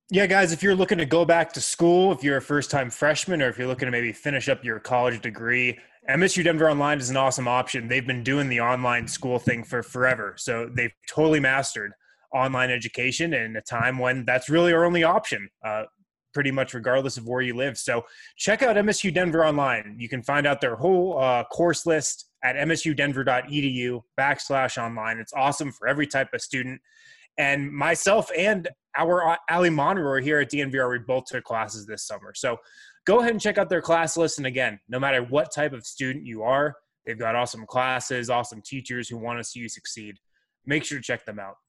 Yeah, guys, if you're looking to go back to school, if you're a first-time freshman, or if you're looking to maybe finish up your college degree, MSU Denver Online is an awesome option. They've been doing the online school thing for forever. So they've totally mastered online education in a time when that's really our only option, pretty much regardless of where you live. So check out MSU Denver Online. You can find out their whole course list at msudenver.edu/online. It's awesome for every type of student. And myself and our Ali Monroe here at DNVR, we both took classes this summer. So go ahead and check out their class list. And again, no matter what type of student you are, they've got awesome classes, awesome teachers who want to see you succeed. Make sure to check them out.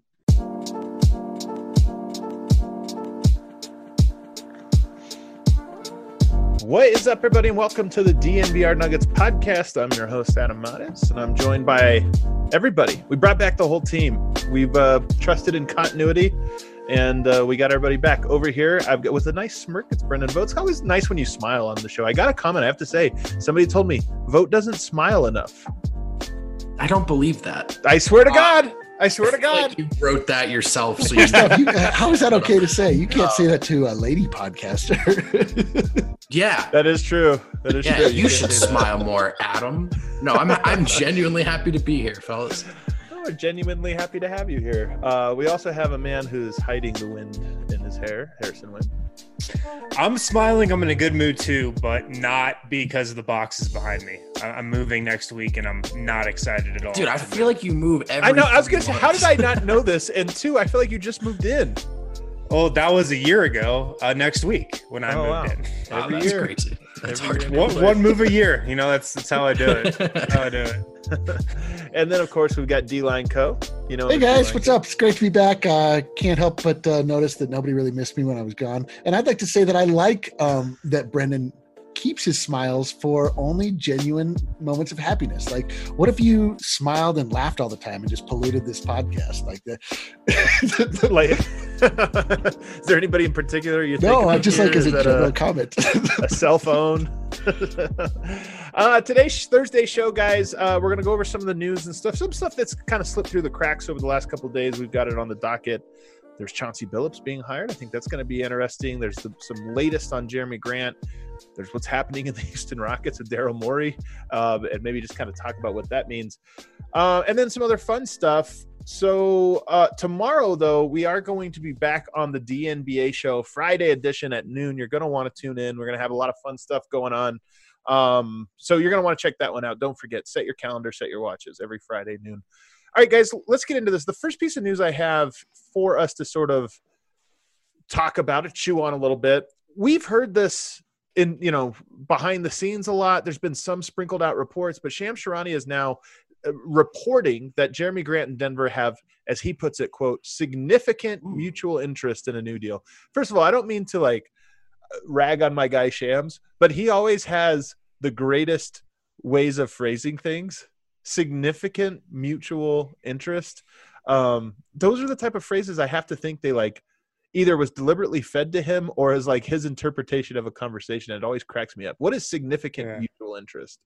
What is up, everybody, and welcome to the DNVR Nuggets podcast. I'm your host, Adam Mares, and I'm joined by everybody. We brought back the whole team. We've trusted in continuity, and we got everybody back. Over here, I've got, with a nice smirk, it's Brendan Vogt. It's always nice when you smile on the show. I got a comment I have to say. Somebody told me, Vogt doesn't smile enough. I don't believe that. I swear to God. I swear to God. Like you wrote that yourself. So you how is that okay to say? You can't say that to a lady podcaster. Yeah. That is true. That is true. You should smile more, Adam. No, I'm genuinely happy to be here, fellas. We're genuinely happy to have you here. We also have a man who's hiding the wind in his hair, Harrison Wind. I'm smiling. I'm in a good mood too, but not because of the boxes behind me. I'm moving next week, and I'm not excited at all. Dude, I feel like you move every I know. I was going to say, months. how did I not know this? And two, I feel like you just moved in. Oh, that was a year ago. Next week when I moved in. Wow, Every that's year. crazy. That's Every hard. year. One move a year. You know, that's how I do it. That's how I do it. And then, of course, we've got D-Line Co. You know, Hey guys, what's up? It's great to be back. Can't help but notice that nobody really missed me when I was gone. And I'd like to say that I like that Brendan keeps his smiles for only genuine moments of happiness. Like, what if you smiled and laughed all the time and just polluted this podcast? Like that. Like, is there anybody in particular you think? No, I just like as a that general comment. a cell phone. Today's Thursday show, guys. We're going to go over some of the news and stuff. Some stuff that's kind of slipped through the cracks over the last couple of days. We've got it on the docket. There's Chauncey Billups being hired. I think that's going to be interesting. There's some latest on Jeremy Grant. There's what's happening in the Houston Rockets with Daryl Morey, and maybe just kind of talk about what that means. And then some other fun stuff. So tomorrow, though, we are going to be back on the DNBA show, Friday edition at noon. You're going to want to tune in. We're going to have a lot of fun stuff going on. So you're going to want to check that one out. Don't forget, set your calendar, set your watches every Friday noon. All right, guys, let's get into this. The first piece of news I have for us to sort of talk about it, chew on a little bit. We've heard this in, behind the scenes a lot. There's been some sprinkled out reports, but Shams Charania is now reporting that Jeremy Grant and Denver have, as he puts it, quote, significant mutual interest in a new deal. First of all, I don't mean to rag on my guy Shams, but he always has the greatest ways of phrasing things. Significant mutual interest. Those are the type of phrases I have to think they either was deliberately fed to him or is his interpretation of a conversation. It always cracks me up. What is significant mutual interest?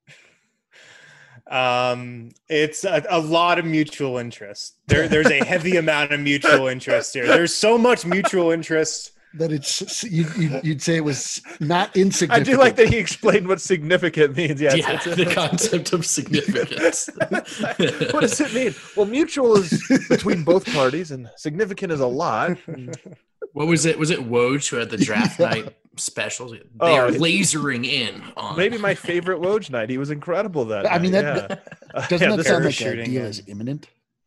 It's a lot of mutual interest. There's a heavy amount of mutual interest here. There's so much mutual interest that it's you'd say it was not insignificant. I do like that he explained what significant means. Yeah, the concept of significance. What does it mean? Well, mutual is between both parties, and significant is a lot. What was it? Was it Woj who had the draft night specials? They are lasering in on. Maybe my favorite Woj night. He was incredible that night. I mean, doesn't that sound like a deal is imminent?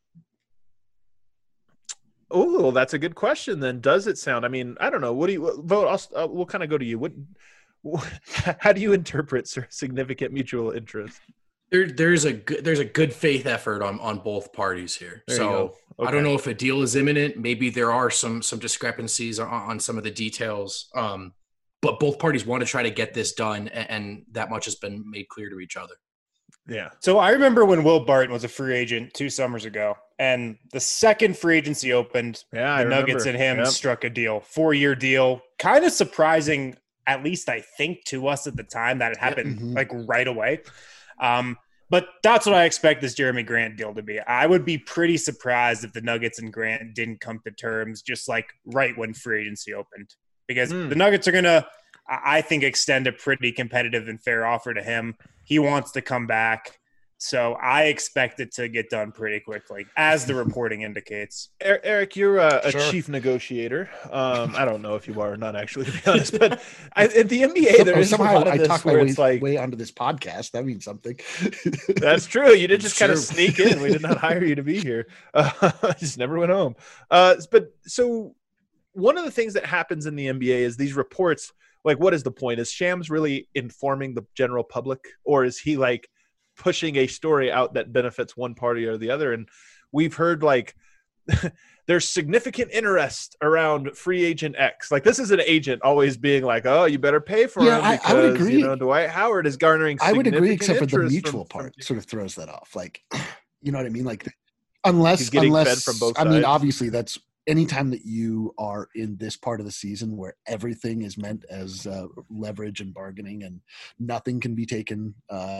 Oh, that's a good question. Then, does it sound? I mean, I don't know. What do you vote? We'll kind of go to you. How do you interpret significant mutual interest? There's a good faith effort on both parties here. So okay. I don't know if a deal is imminent. Maybe there are some discrepancies on some of the details. But both parties want to try to get this done, and that much has been made clear to each other. Yeah. So I remember when Will Barton was a free agent 2 summers ago, and the second free agency opened, the Nuggets and him struck a deal, 4-year deal. Kind of surprising, at least I think to us at the time, that it happened right away. But But that's what I expect this Jeremy Grant deal to be. I would be pretty surprised if the Nuggets and Grant didn't come to terms just like right when free agency opened. Because the Nuggets are going to, I think, extend a pretty competitive and fair offer to him. He wants to come back. So I expect it to get done pretty quickly, as the reporting indicates. Eric, you're a chief negotiator. I don't know if you are or not, actually, to be honest. But in the NBA, there is somehow a lot of I this talked my where it's like way onto this podcast. That means something. That's true. You did just kind of sneak in. We did not hire you to be here. I just never went home. But so one of the things that happens in the NBA is these reports. Like, what is the point? Is Shams really informing the general public, or is he like pushing a story out that benefits one party or the other? And we've heard like there's significant interest around free agent X. Like, this is an agent always being like, oh, you better pay for him because, I would agree. Dwight Howard is garnering I would agree, except for the interest mutual part sort of throws that off. Like, you know what I mean? Like, unless fed from both sides. I mean, obviously that's anytime that you are in this part of the season where everything is meant as leverage and bargaining and nothing can be taken,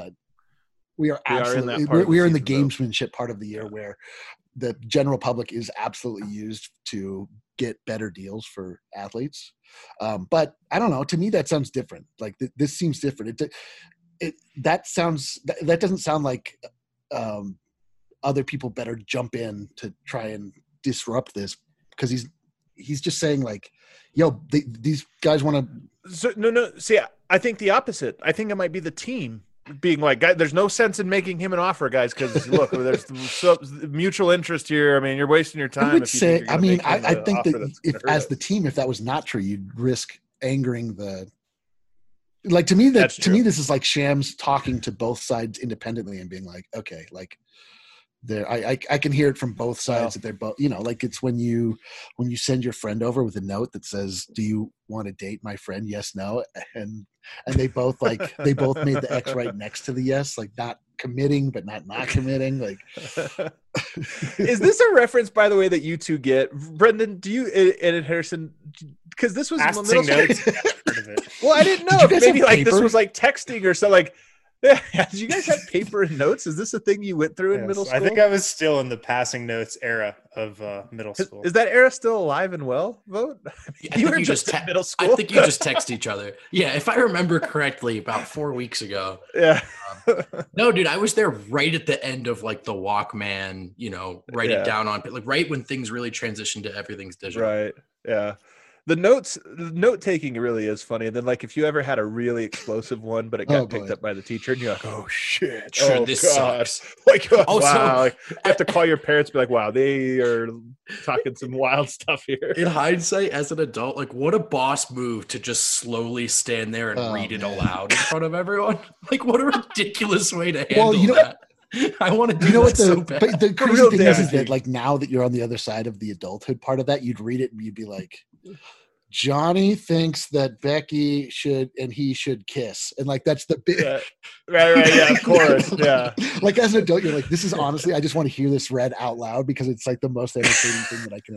we are in the gamesmanship part of the year where the general public is absolutely used to get better deals for athletes. But I don't know, to me, that sounds different. Like this seems different. That doesn't sound like other people better jump in to try and disrupt this, because he's just saying like, yo, these guys want to. So, no. See, I think the opposite. I think it might be the team being like, guys, there's no sense in making him an offer, guys, because look, there's mutual interest here. I mean, you're wasting your time. I would say, I mean, I think that if as the team, if that was not true, you'd risk angering the. Like, to me, this is like Shams talking to both sides independently and being like, okay, like. I can hear it from both sides that they're both, you know, like it's when you send your friend over with a note that says, do you want to date my friend? Yes, no. And they both made the X right next to the yes, like not committing, but not committing. Like, is this a reference, by the way, that you two get? Brendan, do you and Harrison, because this was middle school. Heard of it. Well, I didn't know if maybe like this was like texting or something. Like, yeah, did you guys have paper and notes? Is this a thing you went through in middle school? I think I was still in the passing notes era of middle school. Is that era still alive and well, Vote? You were just middle school. I think you just text each other. Yeah, if I remember correctly, about 4 weeks ago. Yeah. No, dude, I was there right at the end of like the Walkman, you know, writing down on like right when things really transitioned to everything's digital. Right. Yeah. The note taking really is funny. And then, like, if you ever had a really explosive one, but it got picked up by the teacher, and you're like, "Oh shit! This sucks." Like, wow! Like, you have to call your parents, be like, "Wow, they are talking some wild stuff here." In hindsight, as an adult, like, what a boss move to just slowly stand there and read it aloud in front of everyone. Like, what a ridiculous way to handle that. I want to do that so bad. But the crazy thing is that, like, now that you're on the other side of the adulthood part of that, you'd read it and you'd be like, Johnny thinks that Becky should and he should kiss. And like, that's the big. Right. Yeah, of course. Yeah. Like, as an adult, you're like, this is honestly, I just want to hear this read out loud because it's like the most entertaining thing that I can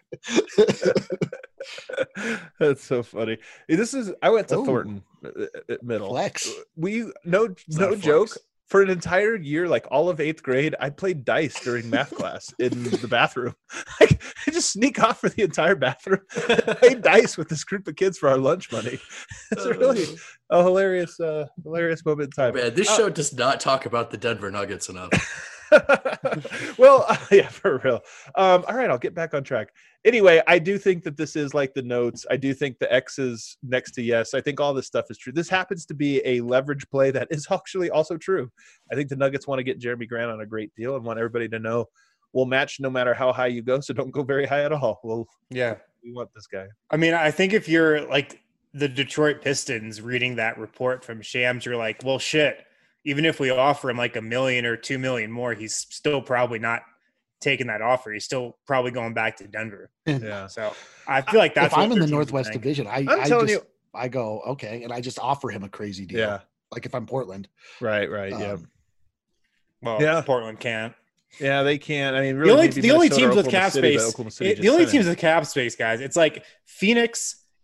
imagine. That's so funny. I went to Thornton Middle. Flex. No joke. For an entire year, like all of 8th grade, I played dice during math class in the bathroom. Like, I just sneak off for the entire bathroom, played dice with this group of kids for our lunch money. It's really a hilarious moment in time. Man, this show does not talk about the Denver Nuggets enough. Well, yeah, for real. All right, I'll get back on track. Anyway, I do think that this is like the notes. I do think the X is next to yes. I think all this stuff is true. This happens to be a leverage play that is actually also true. I think the Nuggets want to get Jeremy Grant on a great deal and want everybody to know we'll match no matter how high you go, so don't go very high at all. We want this guy. I mean, I think if you're like the Detroit Pistons reading that report from Shams, you're like, well, shit. Even if we offer him like $1 million or $2 million more, he's still probably not taking that offer. He's still probably going back to Denver. Yeah. So I feel like that's if I'm in the Northwest Division, I go, okay, and I just offer him a crazy deal. Yeah. Like if I'm Portland. Right. Yeah. Well, yeah. Portland can't. Yeah, they can't. I mean, really, the only teams with cap space, guys, it's like Phoenix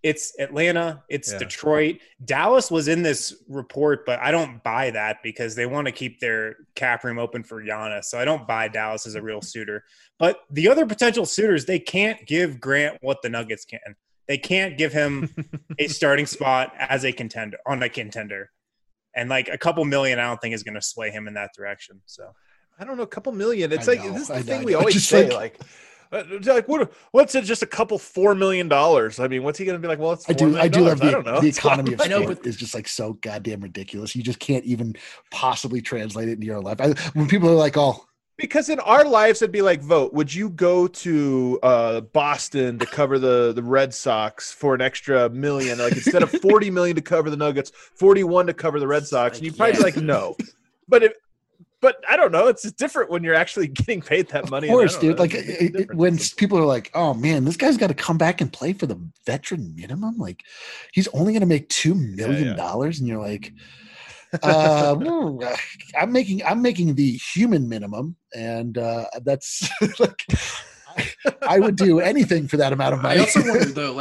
It's Atlanta. It's Detroit. Dallas was in this report, but I don't buy that because they want to keep their cap room open for Giannis. So I don't buy Dallas as a real suitor. But the other potential suitors, they can't give Grant what the Nuggets can. They can't give him a starting spot as a contender on a contender. And like a couple million, I don't think is going to sway him in that direction. So I don't know, a couple million. It's like this is the thing we always say, like what's it? Just a couple $4 million. I mean, what's he going to be like? Well, it's I do love the economy of sport is just like so goddamn ridiculous. You just can't even possibly translate it into your life. When people are like, "Oh," because in our lives it'd be like, vote. Would you go to Boston to cover the Red Sox for an extra $1 million? Like instead of $40 million to cover the Nuggets, 41 to cover the Red Sox, and you'd probably be like, no. But I don't know. It's different when you're actually getting paid that money. Of course, dude. Like when people are like, "Oh man, this guy's got to come back and play for the veteran minimum. Like he's only going to make $2 million," and you're like, "I'm making the human minimum, and that's like I would do anything for that amount of money." I also wonder though,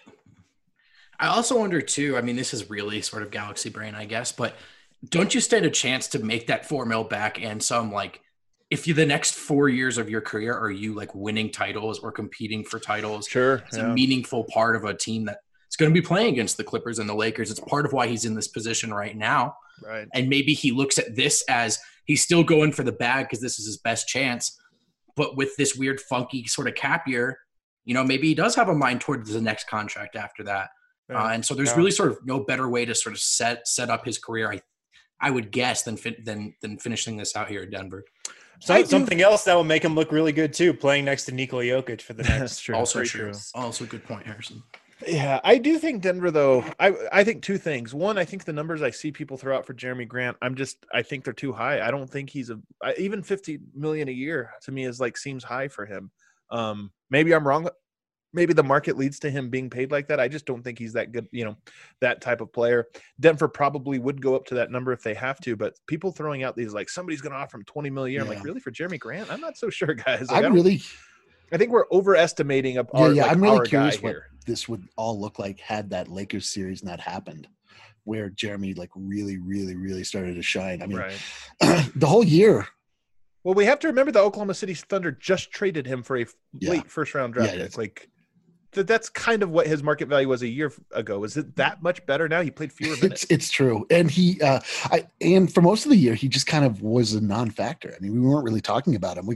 I also wonder too. I mean, this is really sort of galaxy brain, I guess, but. Don't you stand a chance to make that $4 million back and some, like, if you the next 4 years of your career are you like winning titles or competing for titles? Sure, it's a meaningful part of a team that's going to be playing against the Clippers and the Lakers. It's part of why he's in this position right now. Right, and maybe he looks at this as he's still going for the bag because this is his best chance. But with this weird, funky sort of cap year, maybe he does have a mind towards the next contract after that. Right. And so there's really sort of no better way to sort of set up his career. I would guess than finishing this out here at Denver. So something else that will make him look really good too, playing next to Nikola Jokic for the next. That's true. Also true. Also a good point, Harrison. Yeah, I do think Denver though. I think two things. One, I think the numbers I see people throw out for Jeremy Grant, I think they're too high. I don't think he's even $50 million a year to me is like seems high for him. Maybe I'm wrong. Maybe the market leads to him being paid like that. I just don't think he's that good, that type of player. Denver probably would go up to that number if they have to, but people throwing out these like somebody's going to offer him $20 million a year. I'm like, really, for Jeremy Grant? I'm not so sure, guys. Like, I think we're overestimating I'm really curious what this would all look like had that Lakers series not happened, where Jeremy like really, really, really started to shine. I mean, the whole year. Well, we have to remember the Oklahoma City Thunder just traded him for a late first round draft. It's like. That's kind of what his market value was a year ago. Is it that much better now? He played fewer minutes. It's true, and and for most of the year, he just kind of was a non-factor. I mean, we weren't really talking about him.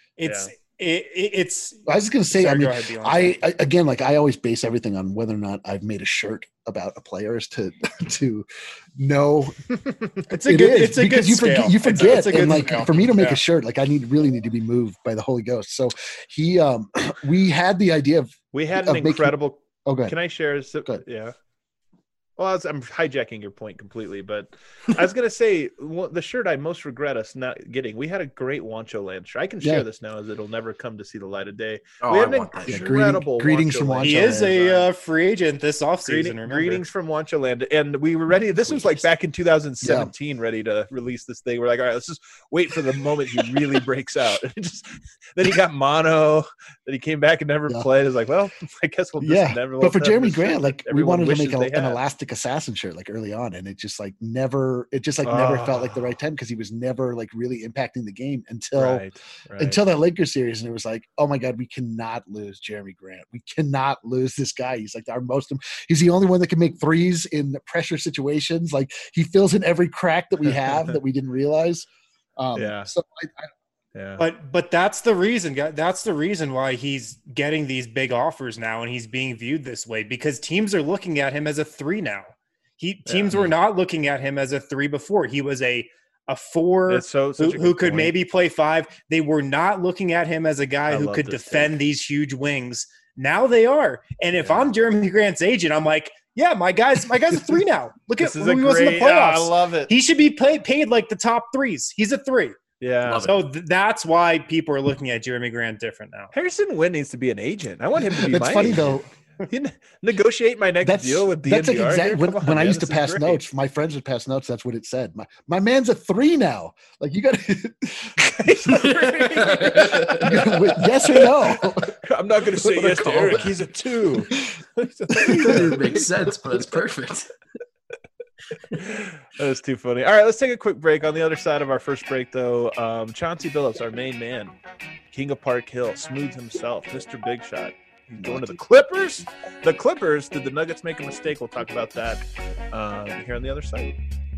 It's. I was going to say. I again, like I always base everything on whether or not I've made a shirt about a player as to know. It's a good you scale. You forget, and like scale. For me to make a shirt, like I really need to be moved by the Holy Ghost. So we had the idea of. We had an incredible. Oh, good. Can I share? Yeah. Well, I'm hijacking your point completely, but I was going to say the shirt I most regret us not getting. We had a great Wancho Land shirt. I can share this now as it'll never come to see the light of day. We had an incredible greetings from Wancho Land. He is a free agent this offseason. Greetings from Wancho Land. And we were ready. This was like back in 2017, ready to release this thing. We're like, all right, let's just wait for the moment he really breaks out. Then he got mono. Then he came back and never played. It's like, well, I guess we'll just never. But for Jeremy Grant, like we wanted to make an elastic assassin shirt like early on, and it just never felt like the right time because he was never like really impacting the game until that Lakers series, and it was like, oh my god, we cannot lose Jeremy Grant. We cannot lose this guy. He's like he's the only one that can make threes in pressure situations. Like he fills in every crack that we have that we didn't realize. But that's the reason. That's the reason why he's getting these big offers now, and he's being viewed this way because teams are looking at him as a 3 now. Teams were not looking at him as a 3 before. He was a 4 who could maybe play 5. They were not looking at him as a guy who could defend these huge wings. Now they are. And if I'm Jeremy Grant's agent, I'm like, yeah, my guy's a 3 now. Look at who he was in the playoffs. I love it. He should be paid like the top 3s. He's a 3. Yeah. So that's why people are looking at Jeremy Grant different now. Harrison Wind needs to be an agent. I want him to be. It's funny though. Negotiate my next deal with DNVR. That's like exactly when I used to pass notes. My friends would pass notes. That's what it said. My man's a 3 now. Like you got to. Yes or no? I'm not going to say yes to Eric. He's a 2. It makes sense, but it's perfect. That was too funny. All right, let's take a quick break. On the other side of our first break, though, Chauncey Billups, our main man, King of Park Hill, Smooth himself, Mr. Big Shot. He's going to the Clippers. The Clippers, did the Nuggets make a mistake? We'll talk about that here on the other side.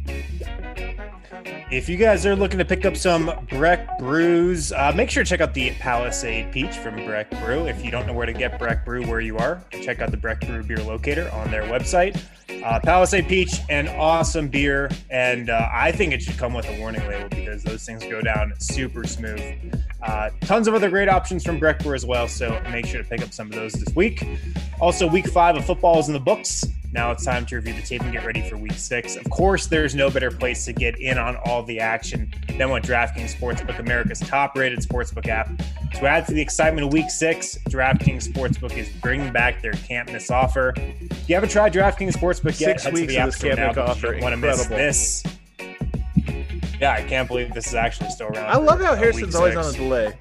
If you guys are looking to pick up some Breck brews, make sure to check out the Palisade Peach from Breck Brew. If you don't know where to get Breck Brew where you are, check out the Breck Brew beer locator on their website. Palisade Peach, an awesome beer, and I think it should come with a warning label because those things go down super smooth. Tons of other great options from Breck Brew as well, so make sure to pick up some of those this week. Also, week 5 of football is in the books. Now it's time to review the tape and get ready for week 6. Of course, there's no better place to get in on all the action than with DraftKings Sportsbook, America's top-rated sportsbook app. To add to the excitement of week 6, DraftKings Sportsbook is bringing back their can't miss offer. If you haven't tried DraftKings Sportsbook yet, head to the app store now because you don't want to miss this. Yeah, I can't believe this is actually still around. I love how Harrison's always on a delay.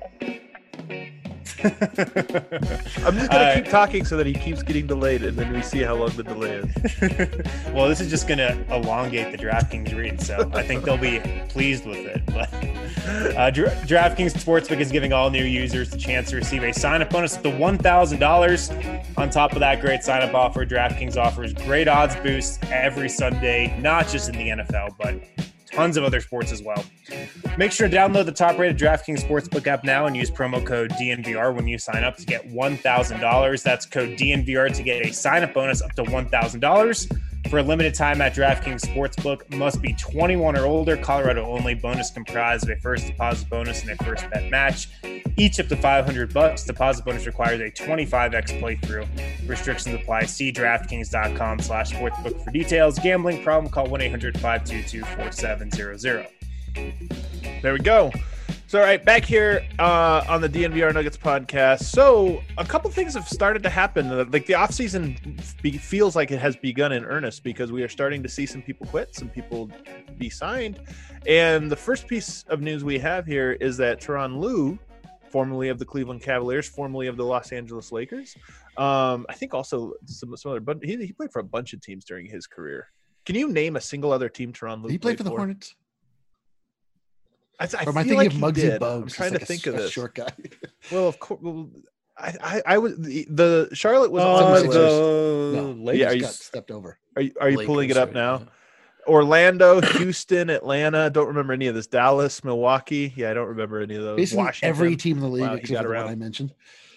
I'm just going to keep talking so that he keeps getting delayed, and then we see how long the delay is. Well, this is just going to elongate the DraftKings read, so I think they'll be pleased with it. But DraftKings Sportsbook is giving all new users the chance to receive a sign-up bonus up to $1,000. On top of that great sign-up offer, DraftKings offers great odds boosts every Sunday, not just in the NFL, but tons of other sports as well. Make sure to download the top-rated DraftKings Sportsbook app now and use promo code DNVR when you sign up to get $1,000. That's code DNVR to get a sign-up bonus up to $1,000. For a limited time at DraftKings Sportsbook, must be 21 or older, Colorado only. Bonus comprised of a first deposit bonus and a first bet match, each up to $500. Deposit bonus requires a 25x playthrough. Restrictions apply. See DraftKings.com/sportsbook for details. Gambling problem? Call 1-800-522-4700. There we go. So, all right, back here on the DNVR Nuggets podcast. So, a couple things have started to happen. Like the offseason feels like it has begun in earnest because we are starting to see some people quit, some people be signed. And the first piece of news we have here is that Tyronn Lue, formerly of the Cleveland Cavaliers, formerly of the Los Angeles Lakers, I think also some other, but he played for a bunch of teams during his career. Can you name a single other team Tyronn Lue he played for the Hornets? I am I thinking like of Muggsy Bogues? I'm trying to think of this. Short guy. Well, of course. Well, I was the Charlotte was on the Lakers. Yeah, got stepped over. Are you pulling it up now? Yeah. Orlando, Houston, Atlanta. Don't remember any of this. Dallas, Milwaukee. Yeah, I don't remember any of those. Basically, Washington. every team in the league except for the one I mentioned.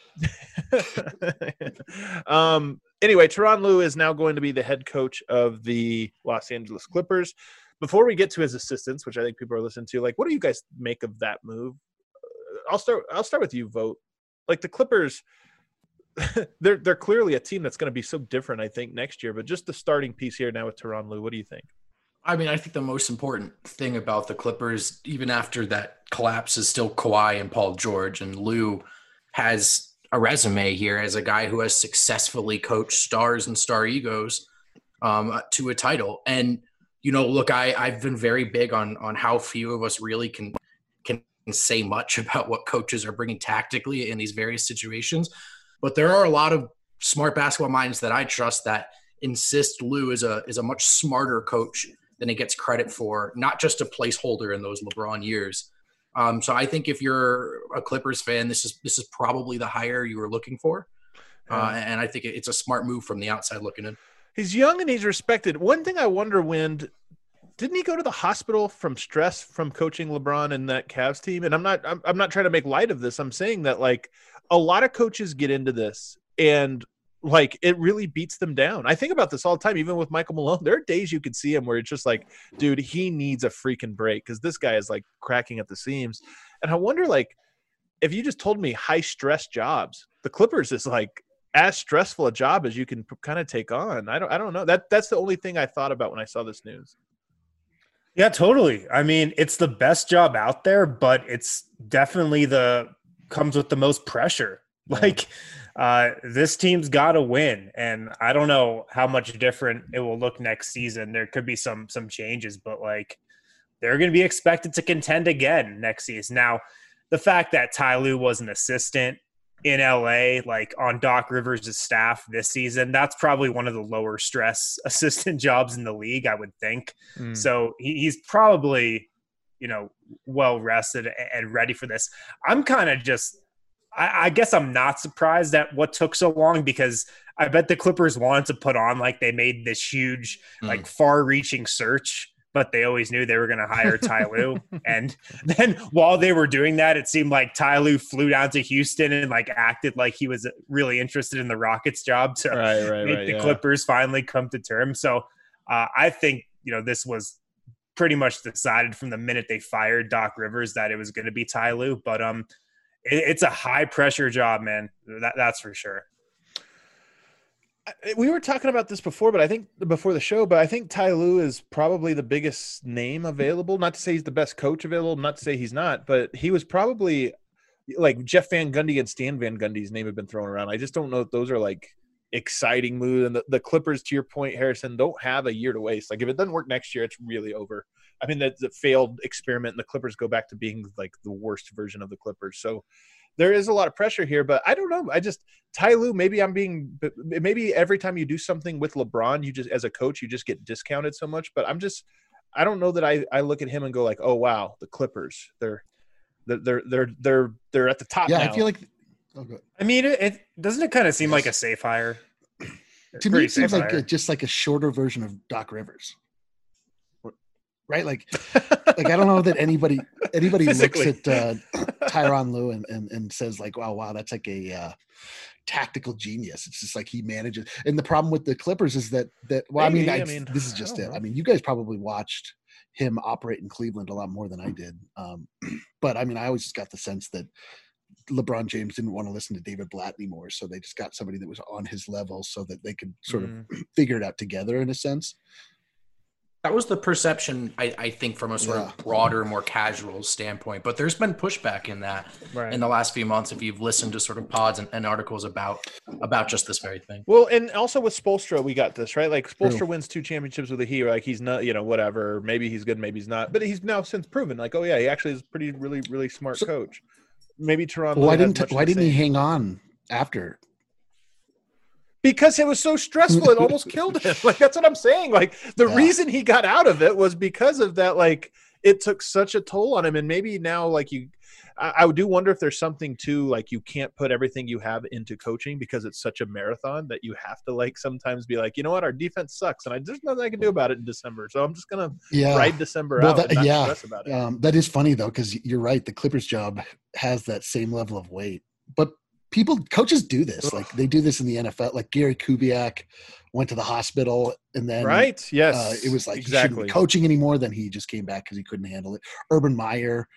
Anyway, Tyronn Lue is now going to be the head coach of the Los Angeles Clippers. Before we get to his assistants, which I think people are listening to, like, what do you guys make of that move? I'll start with you, Vote. Like the Clippers, they're clearly a team that's going to be so different, I think, next year. But just the starting piece here now with Tyronn Lue, what do you think? I mean, I think the most important thing about the Clippers, even after that collapse, is still Kawhi and Paul George. And Lue has a resume here as a guy who has successfully coached stars and star egos to a title. And you know, look, I've been very big on how few of us really can say much about what coaches are bringing tactically in these various situations. But there are a lot of smart basketball minds that I trust that insist Lue is a much smarter coach than he gets credit for, not just a placeholder in those LeBron years. So I think if you're a Clippers fan, this is probably the hire you were looking for. And I think it's a smart move from the outside looking in. He's young and he's respected. One thing I wonder, Wind, didn't he go to the hospital from stress from coaching LeBron and that Cavs team? And I'm not trying to make light of this. I'm saying that like a lot of coaches get into this and like it really beats them down. I think about this all the time, even with Michael Malone. There are days you could see him where it's just like, dude, he needs a freaking break because this guy is like cracking at the seams. And I wonder, like, if you just told me high stress jobs, the Clippers is like as stressful a job as you can kind of take on. I don't know. That's the only thing I thought about when I saw this news. Yeah, totally. I mean, it's the best job out there, but it's definitely comes with the most pressure. Like, this team's got to win, and I don't know how much different it will look next season. There could be some changes, but like they're going to be expected to contend again next season. Now, the fact that Ty Lue was an assistant in LA, like on Doc Rivers' staff this season, that's probably one of the lower stress assistant jobs in the league, I would think. So he's probably, well rested and ready for this. I'm kind of just, I guess I'm not surprised at what took so long, because I bet the Clippers wanted to put on like they made this huge, like far-reaching search, but they always knew they were going to hire Ty Lue. And then while they were doing that, it seemed like Ty Lue flew down to Houston and like acted like he was really interested in the Rockets job to make the Clippers finally come to terms. So I think, this was pretty much decided from the minute they fired Doc Rivers that it was going to be Ty Lue. But it's a high pressure job, man. That's for sure. We were talking about this before, but I think before the show, but I think Ty Lue is probably the biggest name available. Not to say he's the best coach available, not to say he's not, but he was probably like Jeff Van Gundy and Stan Van Gundy's name have been thrown around. I just don't know if those are like exciting moves. And the Clippers, to your point, Harrison, don't have a year to waste. Like if it doesn't work next year, it's really over. I mean, that's a failed experiment, and the Clippers go back to being like the worst version of the Clippers. So there is a lot of pressure here, but I don't know. Ty Lue, maybe every time you do something with LeBron, you just, as a coach, you just get discounted so much. But I don't know that I look at him and go like, oh wow, the Clippers, they're at the top. Yeah, now. I feel like. I mean, it doesn't it kind of seem like a safe hire? To me, it seems like just like a shorter version of Doc Rivers. Right, like I don't know that anybody looks at Tyronn Lue and says like, wow, that's like a tactical genius. It's just like he manages. And the problem with the Clippers is that maybe, this is just it. I mean, you guys probably watched him operate in Cleveland a lot more than I did. But I mean, I always just got the sense that LeBron James didn't want to listen to David Blatt anymore, so they just got somebody that was on his level so that they could sort of figure it out together in a sense. That was the perception, I think, from a sort of broader, more casual standpoint. But there's been pushback in that in the last few months, if you've listened to sort of pods and articles about just this very thing. Well, and also with Spoelstra, we got this, right? Like Spoelstra wins 2 championships with the Heat. Like he's not, whatever. Maybe he's good, maybe he's not. But he's now since proven, like, oh yeah, he actually is a really, really smart coach. Maybe Toronto. Why didn't he hang on after? Because it was so stressful, it almost killed him. Like, that's what I'm saying. Like, the reason he got out of it was because of that. Like, it took such a toll on him. And maybe now, like, I do wonder if there's something too, like, you can't put everything you have into coaching because it's such a marathon that you have to, like, sometimes be like, you know what, our defense sucks, and there's nothing I can do about it in December. So I'm just gonna ride December out and not stress about it. That is funny though, because you're right. The Clippers job has that same level of weight, but coaches do this. Like they do this in the NFL. Like Gary Kubiak went to the hospital and then it was like he shouldn't be coaching anymore. Then he just came back because he couldn't handle it. Urban Meyer.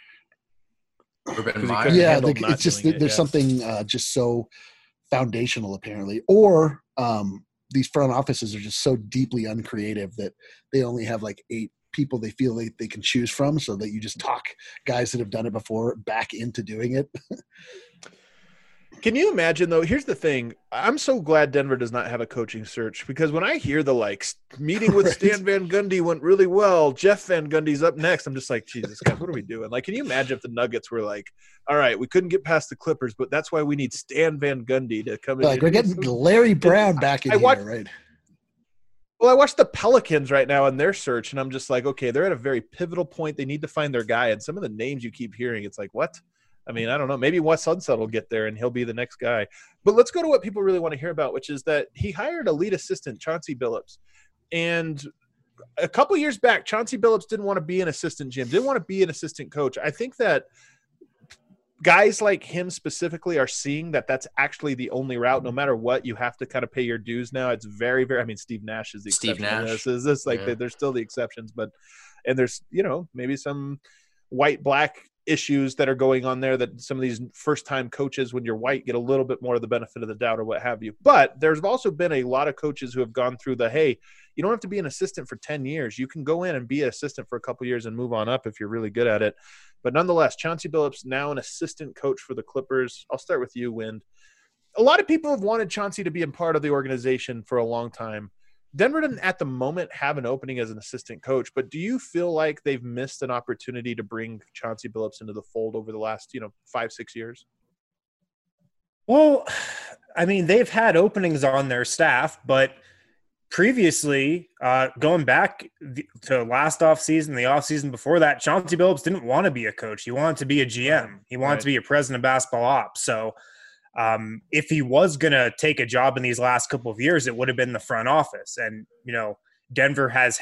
It's just there's something just so foundational apparently. Or these front offices are just so deeply uncreative that they only have like 8 people they feel they can choose from, so that you just talk guys that have done it before back into doing it. Can you imagine, though? Here's the thing. I'm so glad Denver does not have a coaching search, because when I hear the meeting with Stan Van Gundy went really well, Jeff Van Gundy's up next, I'm just like, Jesus, guys, what are we doing? Like, can you imagine if the Nuggets were like, all right, we couldn't get past the Clippers, but that's why we need Stan Van Gundy to come in. Like, we're getting Larry Brown back in here, right? Well, I watch the Pelicans right now in their search, and I'm just like, okay, they're at a very pivotal point. They need to find their guy, and some of the names you keep hearing, it's like, what? I mean, I don't know. Maybe Wes Unseld will get there and he'll be the next guy. But let's go to what people really want to hear about, which is that he hired a lead assistant, Chauncey Billups. And a couple years back, Chauncey Billups didn't want to be an assistant GM, didn't want to be an assistant coach. I think that guys like him specifically are seeing that that's actually the only route. No matter what, you have to kind of pay your dues now. It's very, very – I mean, Steve Nash is the exception. There's still the exceptions. And there's, maybe some white-black – issues that are going on there that some of these first-time coaches, when you're white, get a little bit more of the benefit of the doubt or what have you. But there's also been a lot of coaches who have gone through hey, you don't have to be an assistant for 10 years. You can go in and be an assistant for a couple years and move on up if you're really good at it. But nonetheless, Chauncey Billups, now an assistant coach for the Clippers. I'll start with you, Wind. a lot of people have wanted Chauncey to be a part of the organization for a long time. Denver doesn't at the moment have an opening as an assistant coach, but do you feel like they've missed an opportunity to bring Chauncey Billups into the fold over the last, 5-6 years? Well, I mean, they've had openings on their staff, but previously, going back to last offseason, the offseason before that, Chauncey Billups didn't want to be a coach. He wanted to be a GM. He wanted to be a president of basketball ops. So if he was going to take a job in these last couple of years, it would have been the front office. And, Denver has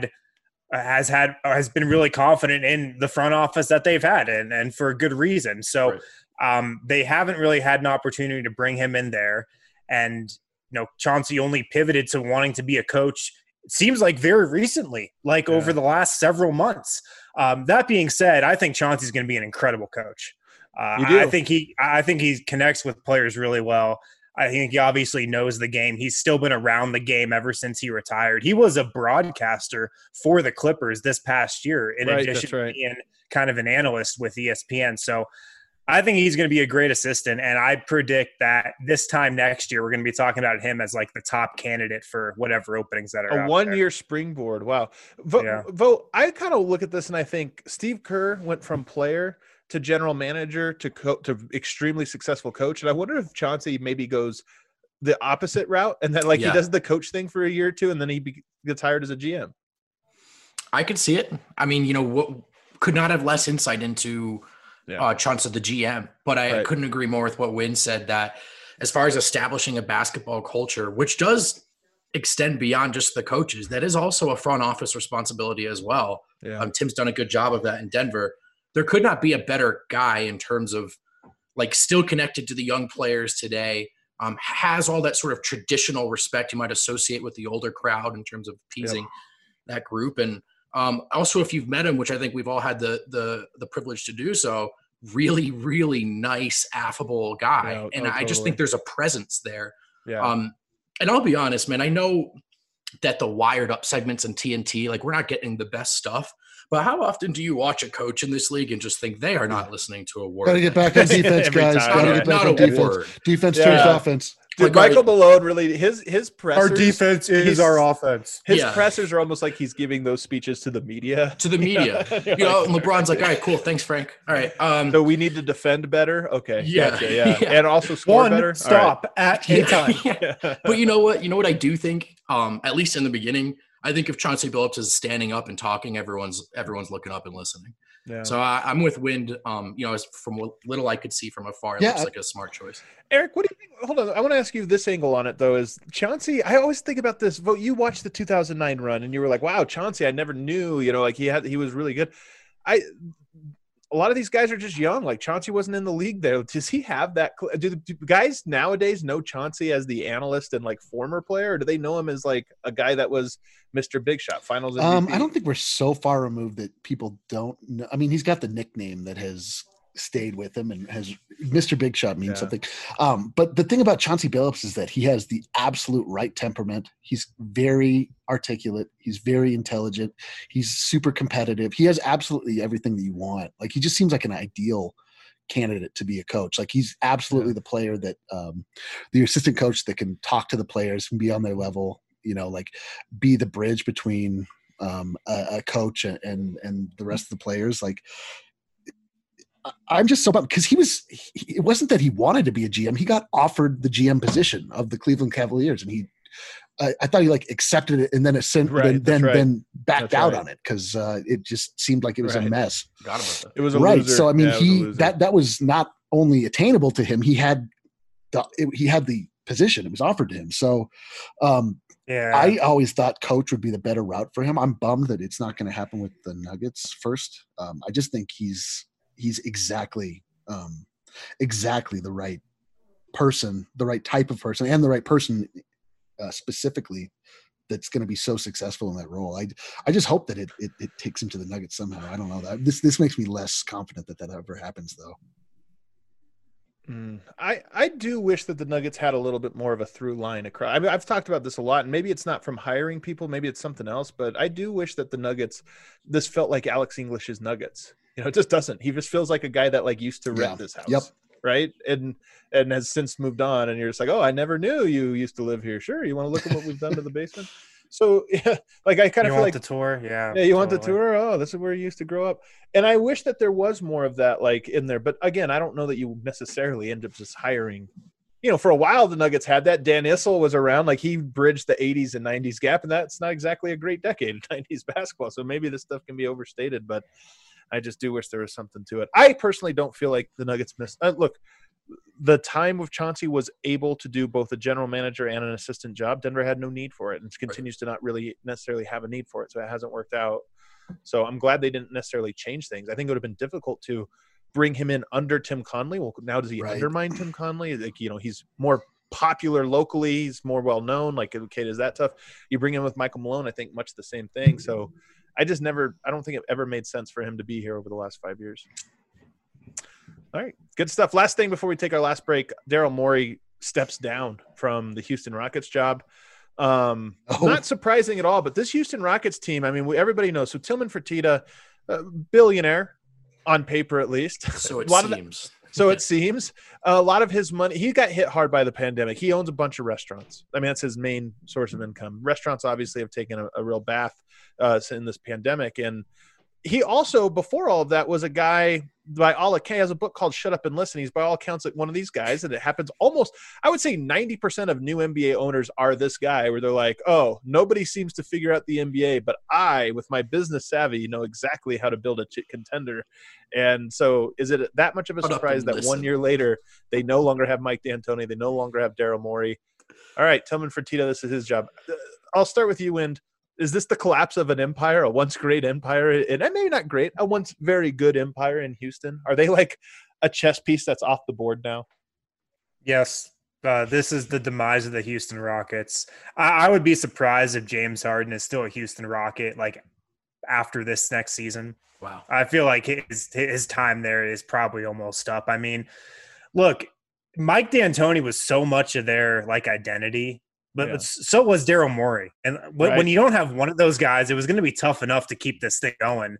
been really confident in the front office that they've had, and for a good reason. So they haven't really had an opportunity to bring him in there. And, Chauncey only pivoted to wanting to be a coach, it seems like very recently, over the last several months. That being said, I think Chauncey's going to be an incredible coach. I think he connects with players really well. I think he obviously knows the game. He's still been around the game ever since he retired. He was a broadcaster for the Clippers this past year, in addition to being kind of an analyst with ESPN. So I think he's going to be a great assistant, and I predict that this time next year we're going to be talking about him as the top candidate for whatever openings that are a one-year springboard. Wow. I kind of look at this and I think Steve Kerr went from player to general manager to extremely successful coach, and I wonder if Chauncey maybe goes the opposite route, and then he does the coach thing for a year or two, and then he gets hired as a GM. I could see it. I mean, what could not have less insight into Chauncey the GM, but I couldn't agree more with what Wynn said, that as far as establishing a basketball culture, which does extend beyond just the coaches, that is also a front office responsibility as well. Tim's done a good job of that in Denver. There could not be a better guy in terms of still connected to the young players today, has all that sort of traditional respect you might associate with the older crowd in terms of appeasing that group. And also, if you've met him, which I think we've all had the privilege to do so, really, really nice, affable guy. I just think there's a presence there. And I'll be honest, man, I know that the wired up segments in TNT, we're not getting the best stuff. But how often do you watch a coach in this league and just think they are not listening to a word? Got to get back on defense, guys. Got to get back on defense. Word. Defense turns offense. Dude, Michael Malone really his pressers. Our defense is our offense. His pressers are almost like he's giving those speeches to the media. And LeBron's like, all right, cool, thanks, Frank. All right. So we need to defend better. Okay. Gotcha, and also score better. Stop at any time. But you know what? You know what I do think? At least in the beginning, I think if Chauncey Billups is standing up and talking, everyone's looking up and listening. Yeah. So I'm with Wind. As from what little I could see from afar, it looks like a smart choice. Eric, what do you think? Hold on, I want to ask you this angle on it though. Is Chauncey? I always think about this. You watched the 2009 run, and you were like, "Wow, Chauncey! I never knew. He was really good." A lot of these guys are just young. Chauncey wasn't in the league there. Does he have that? Do guys nowadays know Chauncey as the analyst and former player, or do they know him as a guy that was Mr. Big Shot, Finals MVP? I don't think we're so far removed that people don't know. I mean, he's got the nickname that has stayed with him, and has Mr. Big Shot means something. But the thing about Chauncey Billups is that he has the absolute right temperament. He's very articulate. He's very intelligent. He's super competitive. He has absolutely everything that you want. He just seems like an ideal candidate to be a coach. He's absolutely the player that the assistant coach that can talk to the players and be on their level, be the bridge between a coach and the rest of the players. I'm just so bummed because it wasn't that he wanted to be a GM. He got offered the GM position of the Cleveland Cavaliers, and I thought he accepted it and then then backed out on it because it just seemed like it was a mess. Forgot about that. It was a loser. So I mean, that was not only attainable to him. He had the position. It was offered to him. So I always thought coach would be the better route for him. I'm bummed that it's not going to happen with the Nuggets first. I just think he's exactly the right person, the right type of person, and the right person specifically that's going to be so successful in that role. I just hope that it takes him to the Nuggets somehow. I don't know that this makes me less confident that ever happens though. I do wish that the Nuggets had a little bit more of a through line across. I mean, I've talked about this a lot, and maybe it's not from hiring people, maybe it's something else, but I do wish that the Nuggets, this felt like Alex English's Nuggets. It just doesn't. He just feels like a guy that used to rent this house. Yep. right? And has since moved on. And you're just like, oh, I never knew you used to live here. Sure, you want to look at what we've done to the basement? So yeah, like I kind of feel like the tour, yeah, you want the tour. Oh, this is where you used to grow up. And I wish that there was more of that, like in there. But again, I don't know that you necessarily end up just hiring. For a while the Nuggets had that. Dan Issel was around, like he bridged the 80s and 90s gap, and that's not exactly a great decade of 90s basketball. So maybe this stuff can be overstated, but I just do wish there was something to it. I personally don't feel like the Nuggets missed. Look, the time of Chauncey was able to do both a general manager and an assistant job. Denver had no need for it and continues to not really necessarily have a need for it. So it hasn't worked out. So I'm glad they didn't necessarily change things. I think it would have been difficult to bring him in under Tim Conley. Well, now does he undermine Tim Conley? Like, he's more popular locally. He's more well-known. Like, okay, is that tough? You bring him with Michael Malone, I think much the same thing. So I don't think it ever made sense for him to be here over the last 5 years. All right, good stuff. Last thing before we take our last break, Daryl Morey steps down from the Houston Rockets job. Not surprising at all, but this Houston Rockets team, I mean, everybody knows. So Tillman Fertitta, billionaire on paper at least. So it seems. It seems. A lot of his money, he got hit hard by the pandemic. He owns a bunch of restaurants. I mean, that's his main source of income. Restaurants obviously have taken a real bath in this pandemic. And he also, before all of that, was a guy by all accounts, has a book called Shut Up and Listen. He's by all accounts like one of these guys, and it happens almost, I would say 90% of new NBA owners are this guy, where they're like, oh, nobody seems to figure out the NBA, but I, with my business savvy, know exactly how to build a contender. And so is it that much of a surprise that 1 year later, they no longer have Mike D'Antoni, they no longer have Daryl Morey? All right, Tillman Fertitta, this is his job. I'll start with you, Wind. Is this the collapse of an empire, a once great empire, and maybe not great, a once very good empire in Houston? Are they like a chess piece that's off the board now? Yes. This is the demise of the Houston Rockets. I would be surprised if James Harden is still a Houston Rocket like after this next season. Wow. I feel like his time there is probably almost up. I mean, look, Mike D'Antoni was so much of their like identity. But so was Daryl Morey. And when you don't have one of those guys, it was going to be tough enough to keep this thing going.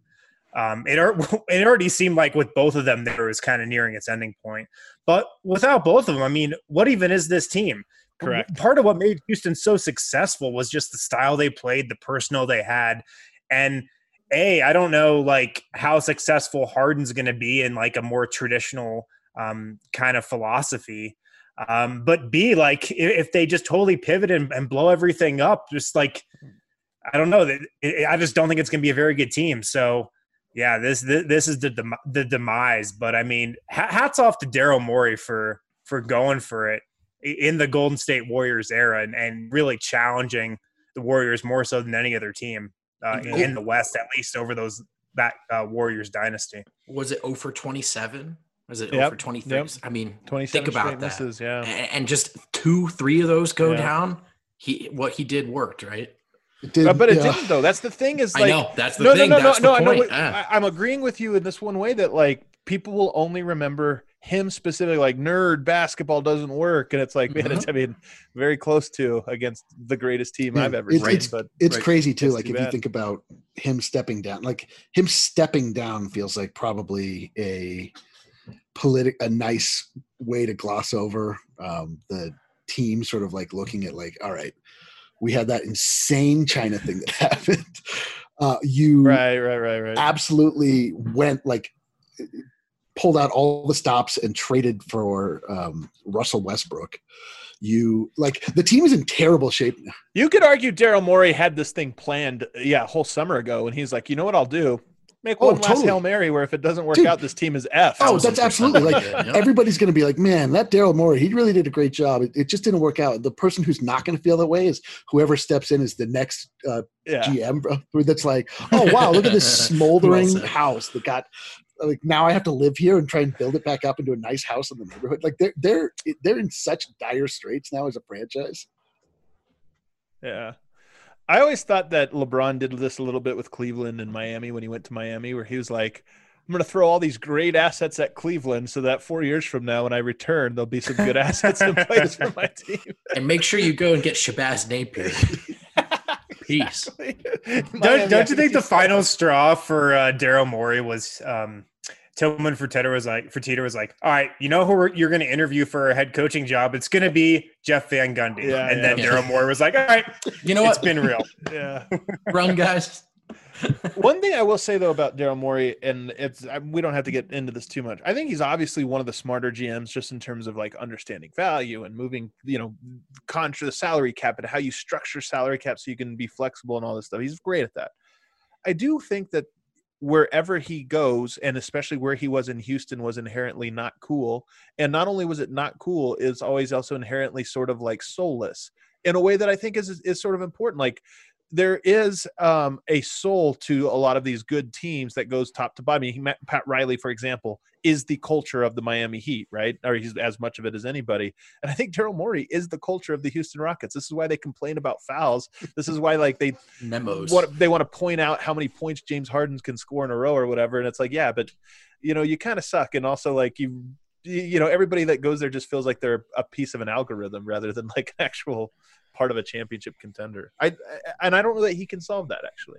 It already seemed like with both of them, there was kind of nearing its ending point. But without both of them, I mean, what even is this team? Correct. Part of what made Houston so successful was just the style they played, the personnel they had. And I don't know like how successful Harden's going to be in like a more traditional kind of philosophy. But B, like if they just totally pivot and blow everything up, just like, I don't know, I just don't think it's going to be a very good team. So yeah, this is the demise. But I mean, hats off to Daryl Morey for going for it in the Golden State Warriors era and really challenging the Warriors more so than any other team in the West, at least over that Warriors dynasty. Was it 0 for 27? Was it 0 for 23? Yep. I mean, think about that. Misses, yeah. And just 2-3 of those go down. What he did worked, right? It didn't though. That's the thing. Is like, I know that's the thing. That's the point. I'm agreeing with you in this one way that like people will only remember him specifically, like nerd basketball doesn't work, and it's like, man, it's very close to against the greatest team I've ever seen. But it's crazy too. Like if you think about him stepping down, like him stepping down feels like probably a nice way to gloss over the team sort of like looking at like, all right, we had that insane China thing that happened. You right. absolutely went like pulled out all the stops and traded for Russell Westbrook. You like the team is in terrible shape now. You could argue Daryl Morey had this thing planned a whole summer ago, and he's like, you know what I'll do? Make one last Hail Mary where if it doesn't work out, this team is F. Oh, that's absolutely like everybody's going to be like, man, that Daryl Morey, he really did a great job. It just didn't work out. The person who's not going to feel that way is whoever steps in as the next GM. That's like, oh wow, look at this smoldering house that got. Like now I have to live here and try and build it back up into a nice house in the neighborhood. Like they're in such dire straits now as a franchise. Yeah. I always thought that LeBron did this a little bit with Cleveland and Miami when he went to Miami, where he was like, I'm going to throw all these great assets at Cleveland so that 4 years from now when I return, there'll be some good assets in place for my team. And make sure you go and get Shabazz Napier. Peace. Don't you think the final straw for Daryl Morey was Tillman Fertitta was like, all right, you know who you're going to interview for a head coaching job? It's going to be Jeff Van Gundy. Then Daryl Morey was like, all right, you know what? It's been real. Yeah. Run, guys. One thing I will say though about Daryl Morey, and we don't have to get into this too much. I think he's obviously one of the smarter GMs, just in terms of like understanding value and moving, contra the salary cap and how you structure salary cap so you can be flexible and all this stuff. He's great at that. I do think that wherever he goes, and especially where he was in Houston, was inherently not cool. And not only was it not cool, it's always also inherently sort of like soulless in a way that I think is sort of important. Like, there is a soul to a lot of these good teams that goes top to bottom. I mean, Pat Riley, for example, is the culture of the Miami Heat, right? Or he's as much of it as anybody. And I think Daryl Morey is the culture of the Houston Rockets. This is why they complain about fouls. This is why they want to point out how many points James Harden can score in a row or whatever. And it's like, yeah, but you kind of suck. And also like everybody that goes there just feels like they're a piece of an algorithm rather than like an actual part of a championship contender. I don't know that he can solve that, actually.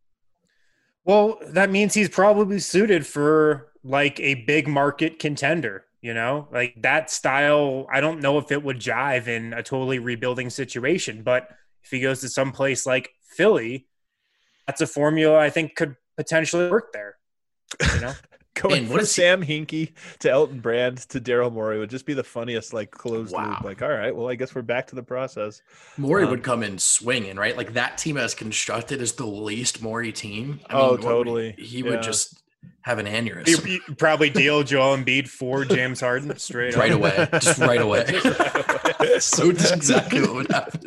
Well, that means he's probably suited for like a big market contender, like that style. I don't know if it would jive in a totally rebuilding situation, but if he goes to some place like Philly, that's a formula I think could potentially work there. Going from Sam Hinkie to Elton Brand to Daryl Morey would just be the funniest, like, closed loop. Like, all right, well, I guess we're back to the process. Morey would come in swinging, right? Like, that team as constructed is the least Morey team. Totally. He would just have an aneurysm. He'd probably deal Joel Embiid for James Harden straight right away. Just right away. So that's exactly what would happen.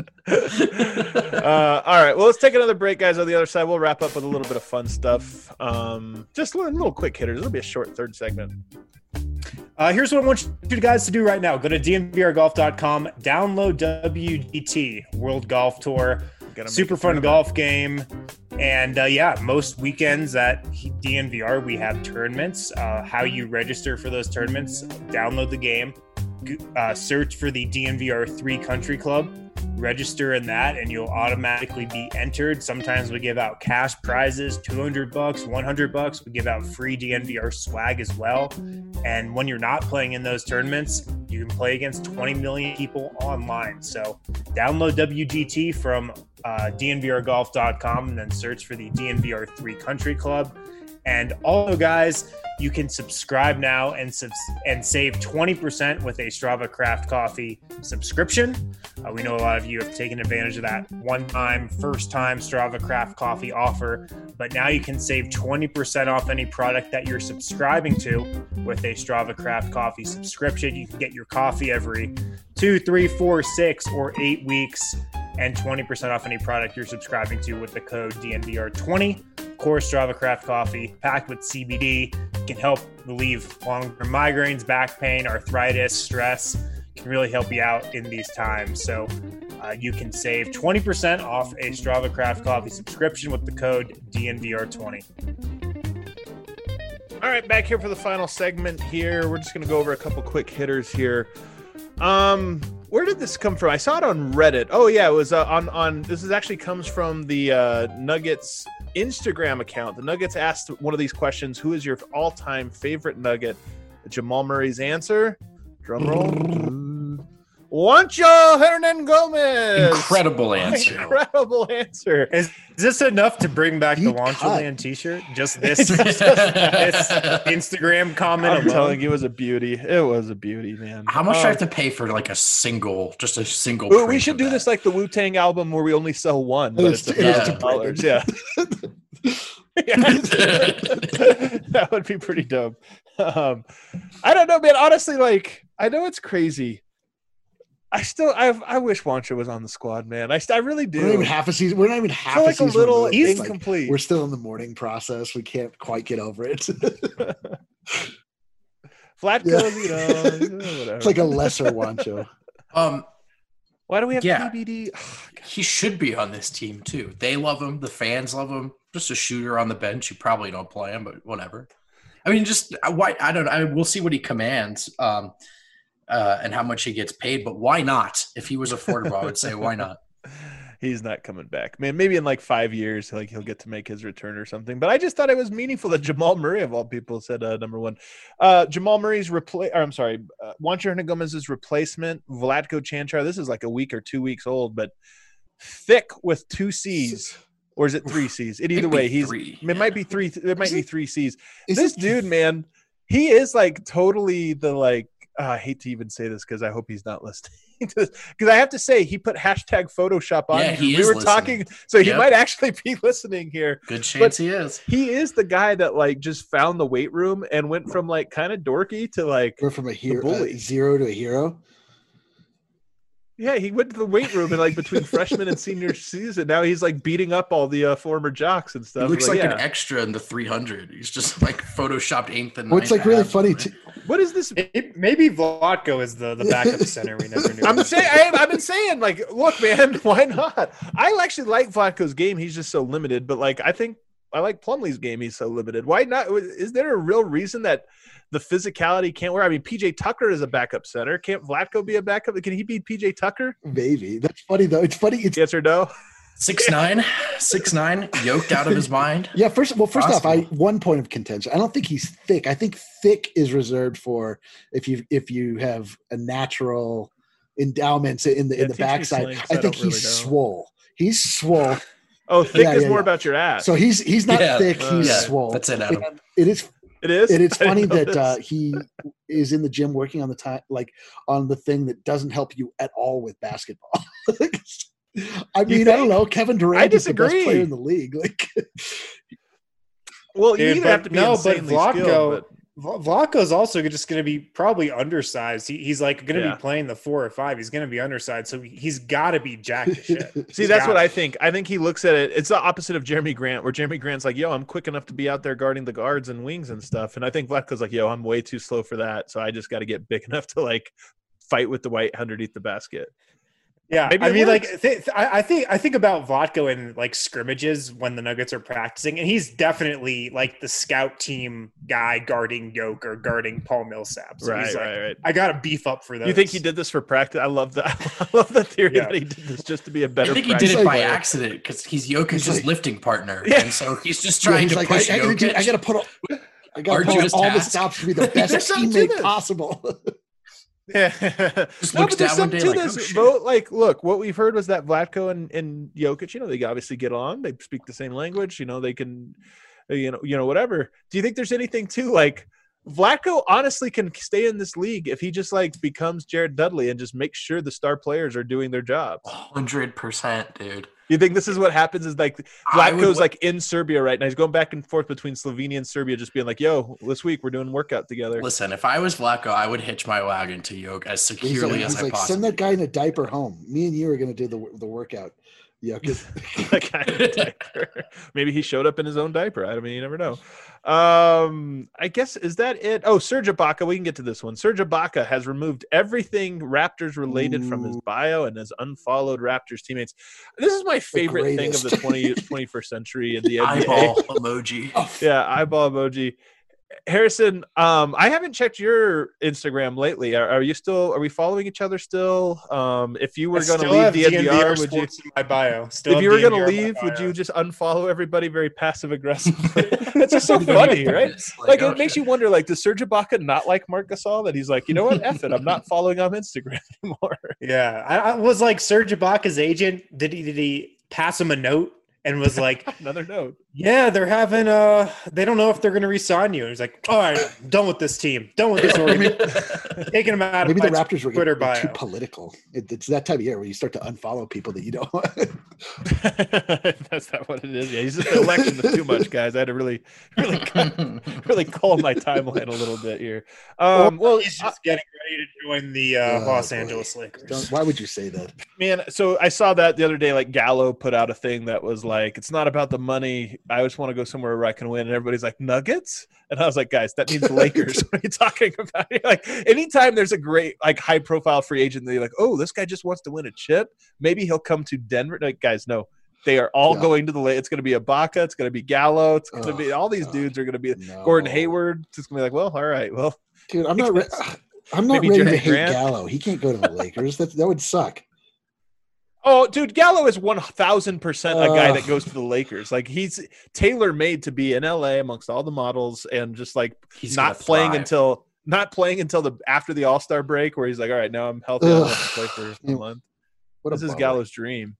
All right, well, let's take another break, guys. On the other side, we'll wrap up with a little bit of fun stuff. Just little quick hitters. It'll be a short third segment. Here's what I want you guys to do right now. Go to dnvrgolf.com, download WGT, World Golf Tour. Super fun golf game. And most weekends at DNVR, we have tournaments. How you register for those tournaments, download the game, search for the DNVR 3 Country Club, register in that, and you'll automatically be entered. Sometimes we give out cash prizes, $200, $100. We give out free DNVR swag as well. And when you're not playing in those tournaments, you can play against 20 million people online. So download WGT from dnvrgolf.com and then search for the DNVR 3 Country Club. And also, guys, you can subscribe now and save 20% with a Strava Craft Coffee subscription. We know a lot of you have taken advantage of that one-time, first-time Strava Craft Coffee offer, but now you can save 20% off any product that you're subscribing to with a Strava Craft Coffee subscription. You can get your coffee every 2, 3, 4, 6, or 8 weeks, and 20% off any product you're subscribing to with the code DNVR20. Of course, Strava Craft Coffee, packed with CBD, can help relieve long-term migraines, back pain, arthritis, stress. Can really help you out in these times. So you can save 20% off a Strava Craft Coffee subscription with the code DNVR20. All right, back here for the final segment here. We're just going to go over a couple quick hitters here. Where did this come from? I saw it on Reddit. Oh yeah, it was on this is actually comes from the Nuggets Instagram account. The Nuggets asked one of these questions: who is your all-time favorite Nugget? Jamal Murray's answer, drum roll, Juancho Hernangomez. Incredible answer. Incredible answer. Is this enough to bring back the Juancho Land t-shirt? Just this Instagram comment I'm alone? telling you, it was a beauty. It was a beauty, man. How much do I have to pay for like a single? Ooh, we should do this like the Wu-Tang album where we only sell one, but it's $1,000. Yeah. That would be pretty dope. I don't know, man. Honestly, like, I know it's crazy. I wish Juancho was on the squad, man. I really do. We're not even half a season. We're not even half a season. A little incomplete. Like, we're still in the mourning process. We can't quite get over it. Vlatko's, whatever. It's like a lesser Juancho. Why do we have TBD? Oh, he should be on this team too. They love him. The fans love him. Just a shooter on the bench. You probably don't play him, but whatever. I mean, I don't know. We'll see what he commands. And how much he gets paid, but why not? If he was affordable, I would say why not? He's not coming back, man. Maybe in like 5 years, like he'll get to make his return or something. But I just thought it was meaningful that Jamal Murray, of all people, said number one. Jamal Murray's Juancho Hernangomez's replacement, Vlatko Čančar. This is like a week or 2 weeks old, but thick with 2 C's, or is it 3 C's? Either way, it might be 3. It might be 3 C's. This dude, man, he is like totally the like. I hate to even say this because I hope he's not listening to this. Because I have to say, he put hashtag Photoshop on. Yeah, we were talking, so he might actually be listening here. Good chance he is. He is the guy that like just found the weight room and went from like kind of dorky to like from a hero, zero to a hero. Yeah, he went to the weight room and like between freshman and senior season. Now he's like beating up all the former jocks and stuff. He looks like an extra in the 300. He's just like photoshopped 8th and 9th. What's like really funny what is this? Maybe Vlatko is the backup center. We never knew. I've been saying, like, look, man, why not? I actually like Vlatko's game. He's just so limited. But like, I think I like Plumlee's game. He's so limited. Why not? Is there a real reason that the physicality can't work? I mean, PJ Tucker is a backup center. Can't Vlatko be a backup? Can he beat PJ Tucker? Maybe. That's funny though. It's funny. It's yes or no. 6'9", yoked out of his mind. Yeah. First off, one point of contention. I don't think he's thick. I think thick is reserved for if you have a natural endowments in the backside. I think he's swole. He's swole. Oh, thick is more about your ass. So he's not thick. He's swole. That's it, Adam. And it is. It is. And it's funny that he is in the gym working on on the thing that doesn't help you at all with basketball. I mean, I don't know. Kevin Durant is the best player in the league. Like, well, you either have to be insanely skilled. Vlatko's also just going to be probably undersized. He's like going to be playing the 4 or 5. He's going to be undersized, so he's got to be jacked to shit. See, that's what I think. I think he looks at it. It's the opposite of Jeremy Grant, where Jeremy Grant's like, "Yo, I'm quick enough to be out there guarding the guards and wings and stuff," and I think Vlatko's like, "Yo, I'm way too slow for that, so I just got to get big enough to like fight with the white underneath the basket." Yeah, I mean, like I think about Vlatko in like scrimmages when the Nuggets are practicing, and he's definitely like the scout team guy guarding Yoke or guarding Paul Millsap. So right. I got to beef up for those. You think he did this for practice? I love that. I love the theory that he did this just to be a better. I think he did it by accident because he's Jokic's lifting partner, and so he's just trying to push Jokic. I got to put all the stops to be the best teammate possible. Yeah, but there's something to this. Like, look, what we've heard was that Vlatko and Jokic, they obviously get along. They speak the same language. They can, whatever. Do you think there's anything to like Vlatko? Honestly, can stay in this league if he just like becomes Jared Dudley and just makes sure the star players are doing their job. 100%, dude. You think this is what happens? Is like Vlatko's like in Serbia right now. He's going back and forth between Slovenia and Serbia, just being like, "Yo, this week we're doing workout together." Listen, if I was Vlatko, I would hitch my wagon to Yoke as securely as I possibly. Send that guy in a diaper home. Me and you are going to do the workout. Yeah, that guy in a diaper. Maybe he showed up in his own diaper. I mean, you never know. I guess is that it? Oh, Serge Ibaka. We can get to this one. Serge Ibaka has removed everything Raptors related from his bio and has unfollowed Raptors teammates. This is my favorite thing of the 21st century in the NBA. Eyeball emoji. Yeah, eyeball emoji. Harrison, I haven't checked your Instagram lately. Are we following each other still? If you were going to leave the NBR, would you? In my bio. If you were going to leave, would you just unfollow everybody very passive aggressively? That's just so funny, right? Like it makes you wonder. Like, does Serge Ibaka not like Marc Gasol? That he's like, you know what? F it. I'm not following on Instagram anymore. Yeah, I was like Serge Ibaka's agent. Did he pass him a note? And was like, another note. Yeah, they're having they don't know if they're going to re-sign you. And he's like, all right, done with this team, done with this organization. Taking them out. Maybe the Raptors were Twitter bio. Too political. It's that time of year where you start to unfollow people that you don't want. That's not what it is. Yeah, he's just electing this too much, guys. I had to really calm my timeline a little bit here. Well, he's just getting ready to join the Los Angeles Lakers. Why would you say that, man? So I saw that the other day. Like Gallo put out a thing that was like, it's not about the money. I just want to go somewhere where I can win. And everybody's like, Nuggets? And I was like, guys, that means Lakers. What are you talking about? Like, anytime there's a great, like, high-profile free agent, they're like, oh, this guy just wants to win a chip. Maybe he'll come to Denver. Like, guys, no. They are all going to the Lakers. It's going to be Ibaka. It's going to be Gallo. It's going to be all these dudes are going to be Gordon Hayward. It's just going to be like, well, all right. Well, dude, I'm not ready to hate Gallo. He can't go to the Lakers. That would suck. Oh, dude, Gallo is 1,000% a guy that goes to the Lakers. Like, he's tailor-made to be in LA amongst all the models, and just like He's not playing until the after the All-Star break, where he's like, all right, now I'm healthy, I don't have to play for a month. This is Gallo's dream.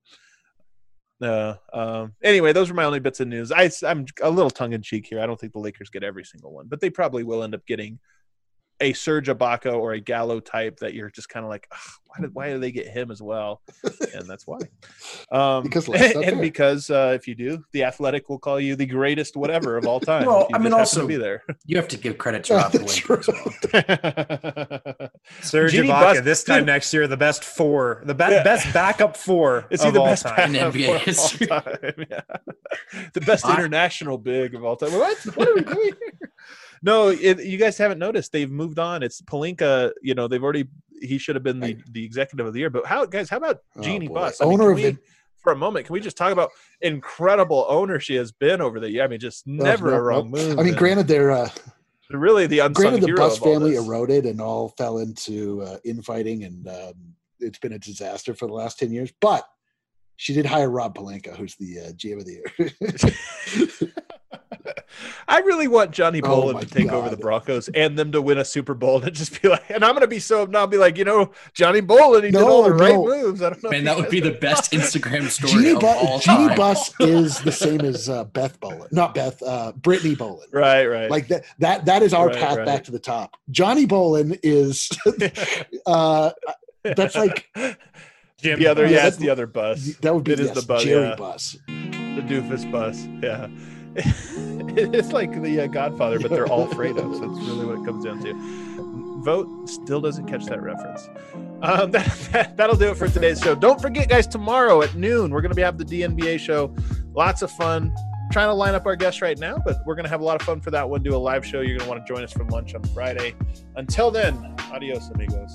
Anyway, those were my only bits of news. I'm a little tongue-in-cheek here. I don't think the Lakers get every single one, but they probably will end up getting a Serge Ibaka or a Gallo type that you're just kind of like, why do they get him as well? And that's why. Because if you do, The Athletic will call you the greatest whatever of all time. Well, I mean, also be there. You have to give credit to Rob Pelinka as well. Serge Ibaka this time next year, the best four, best backup four. Is he the best in NBA history? The best international big of all time. What are we doing here? No, you guys haven't noticed. They've moved on. It's Pelinka. He should have been the executive of the year. But how about Jeannie Buss? For a moment, can we just talk about incredible owner she has been over the year? I mean, just never a wrong move. I mean, granted, they're really the unsung hero. The Buss family of all eroded and all fell into infighting, and it's been a disaster for the last 10 years. But she did hire Rob Pelinka, who's the GM of the year. I really want Johnny Bolin to take over the Broncos and them to win a Super Bowl and just be like, and I'm going to be so now be like, Johnny Bolin, he did all the right moves. I don't know. Man, that would be the best Instagram story of all time. Jeannie Buss is the same as Beth Bolin, not Beth, Brittany Bolin. Right. Like that is our path back to the top. Johnny Bolin is that's like Jim. The other, it's the other Buss. That would be the Buss, Jerry Buss, the doofus Buss. Yeah. It's like the Godfather, but they're all Fredo. So that's really what it comes down to. Vote still doesn't catch that reference. That'll do it for today's show. Don't forget, guys, tomorrow at noon, we're going to have the DNBA show. Lots of fun. Trying to line up our guests right now, but we're going to have a lot of fun for that one. Do a live show. You're going to want to join us for lunch on Friday. Until then, adios, amigos.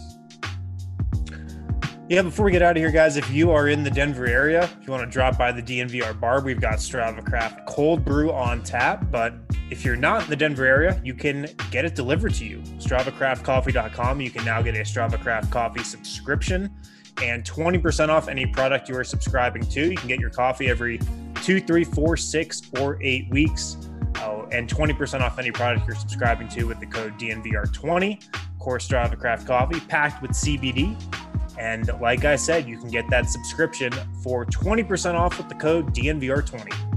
Yeah, before we get out of here, guys, if you are in the Denver area, if you want to drop by the DNVR bar, we've got Strava Craft cold brew on tap. But if you're not in the Denver area, you can get it delivered to you. StravaCraftCoffee.com. You can now get a Strava Craft coffee subscription and 20% off any product you are subscribing to. You can get your coffee every 2, 3, 4, 6, or 8 weeks. And 20% off any product you're subscribing to with the code DNVR20. Of course, Strava Craft coffee packed with CBD. And like I said, you can get that subscription for 20% off with the code DNVR20.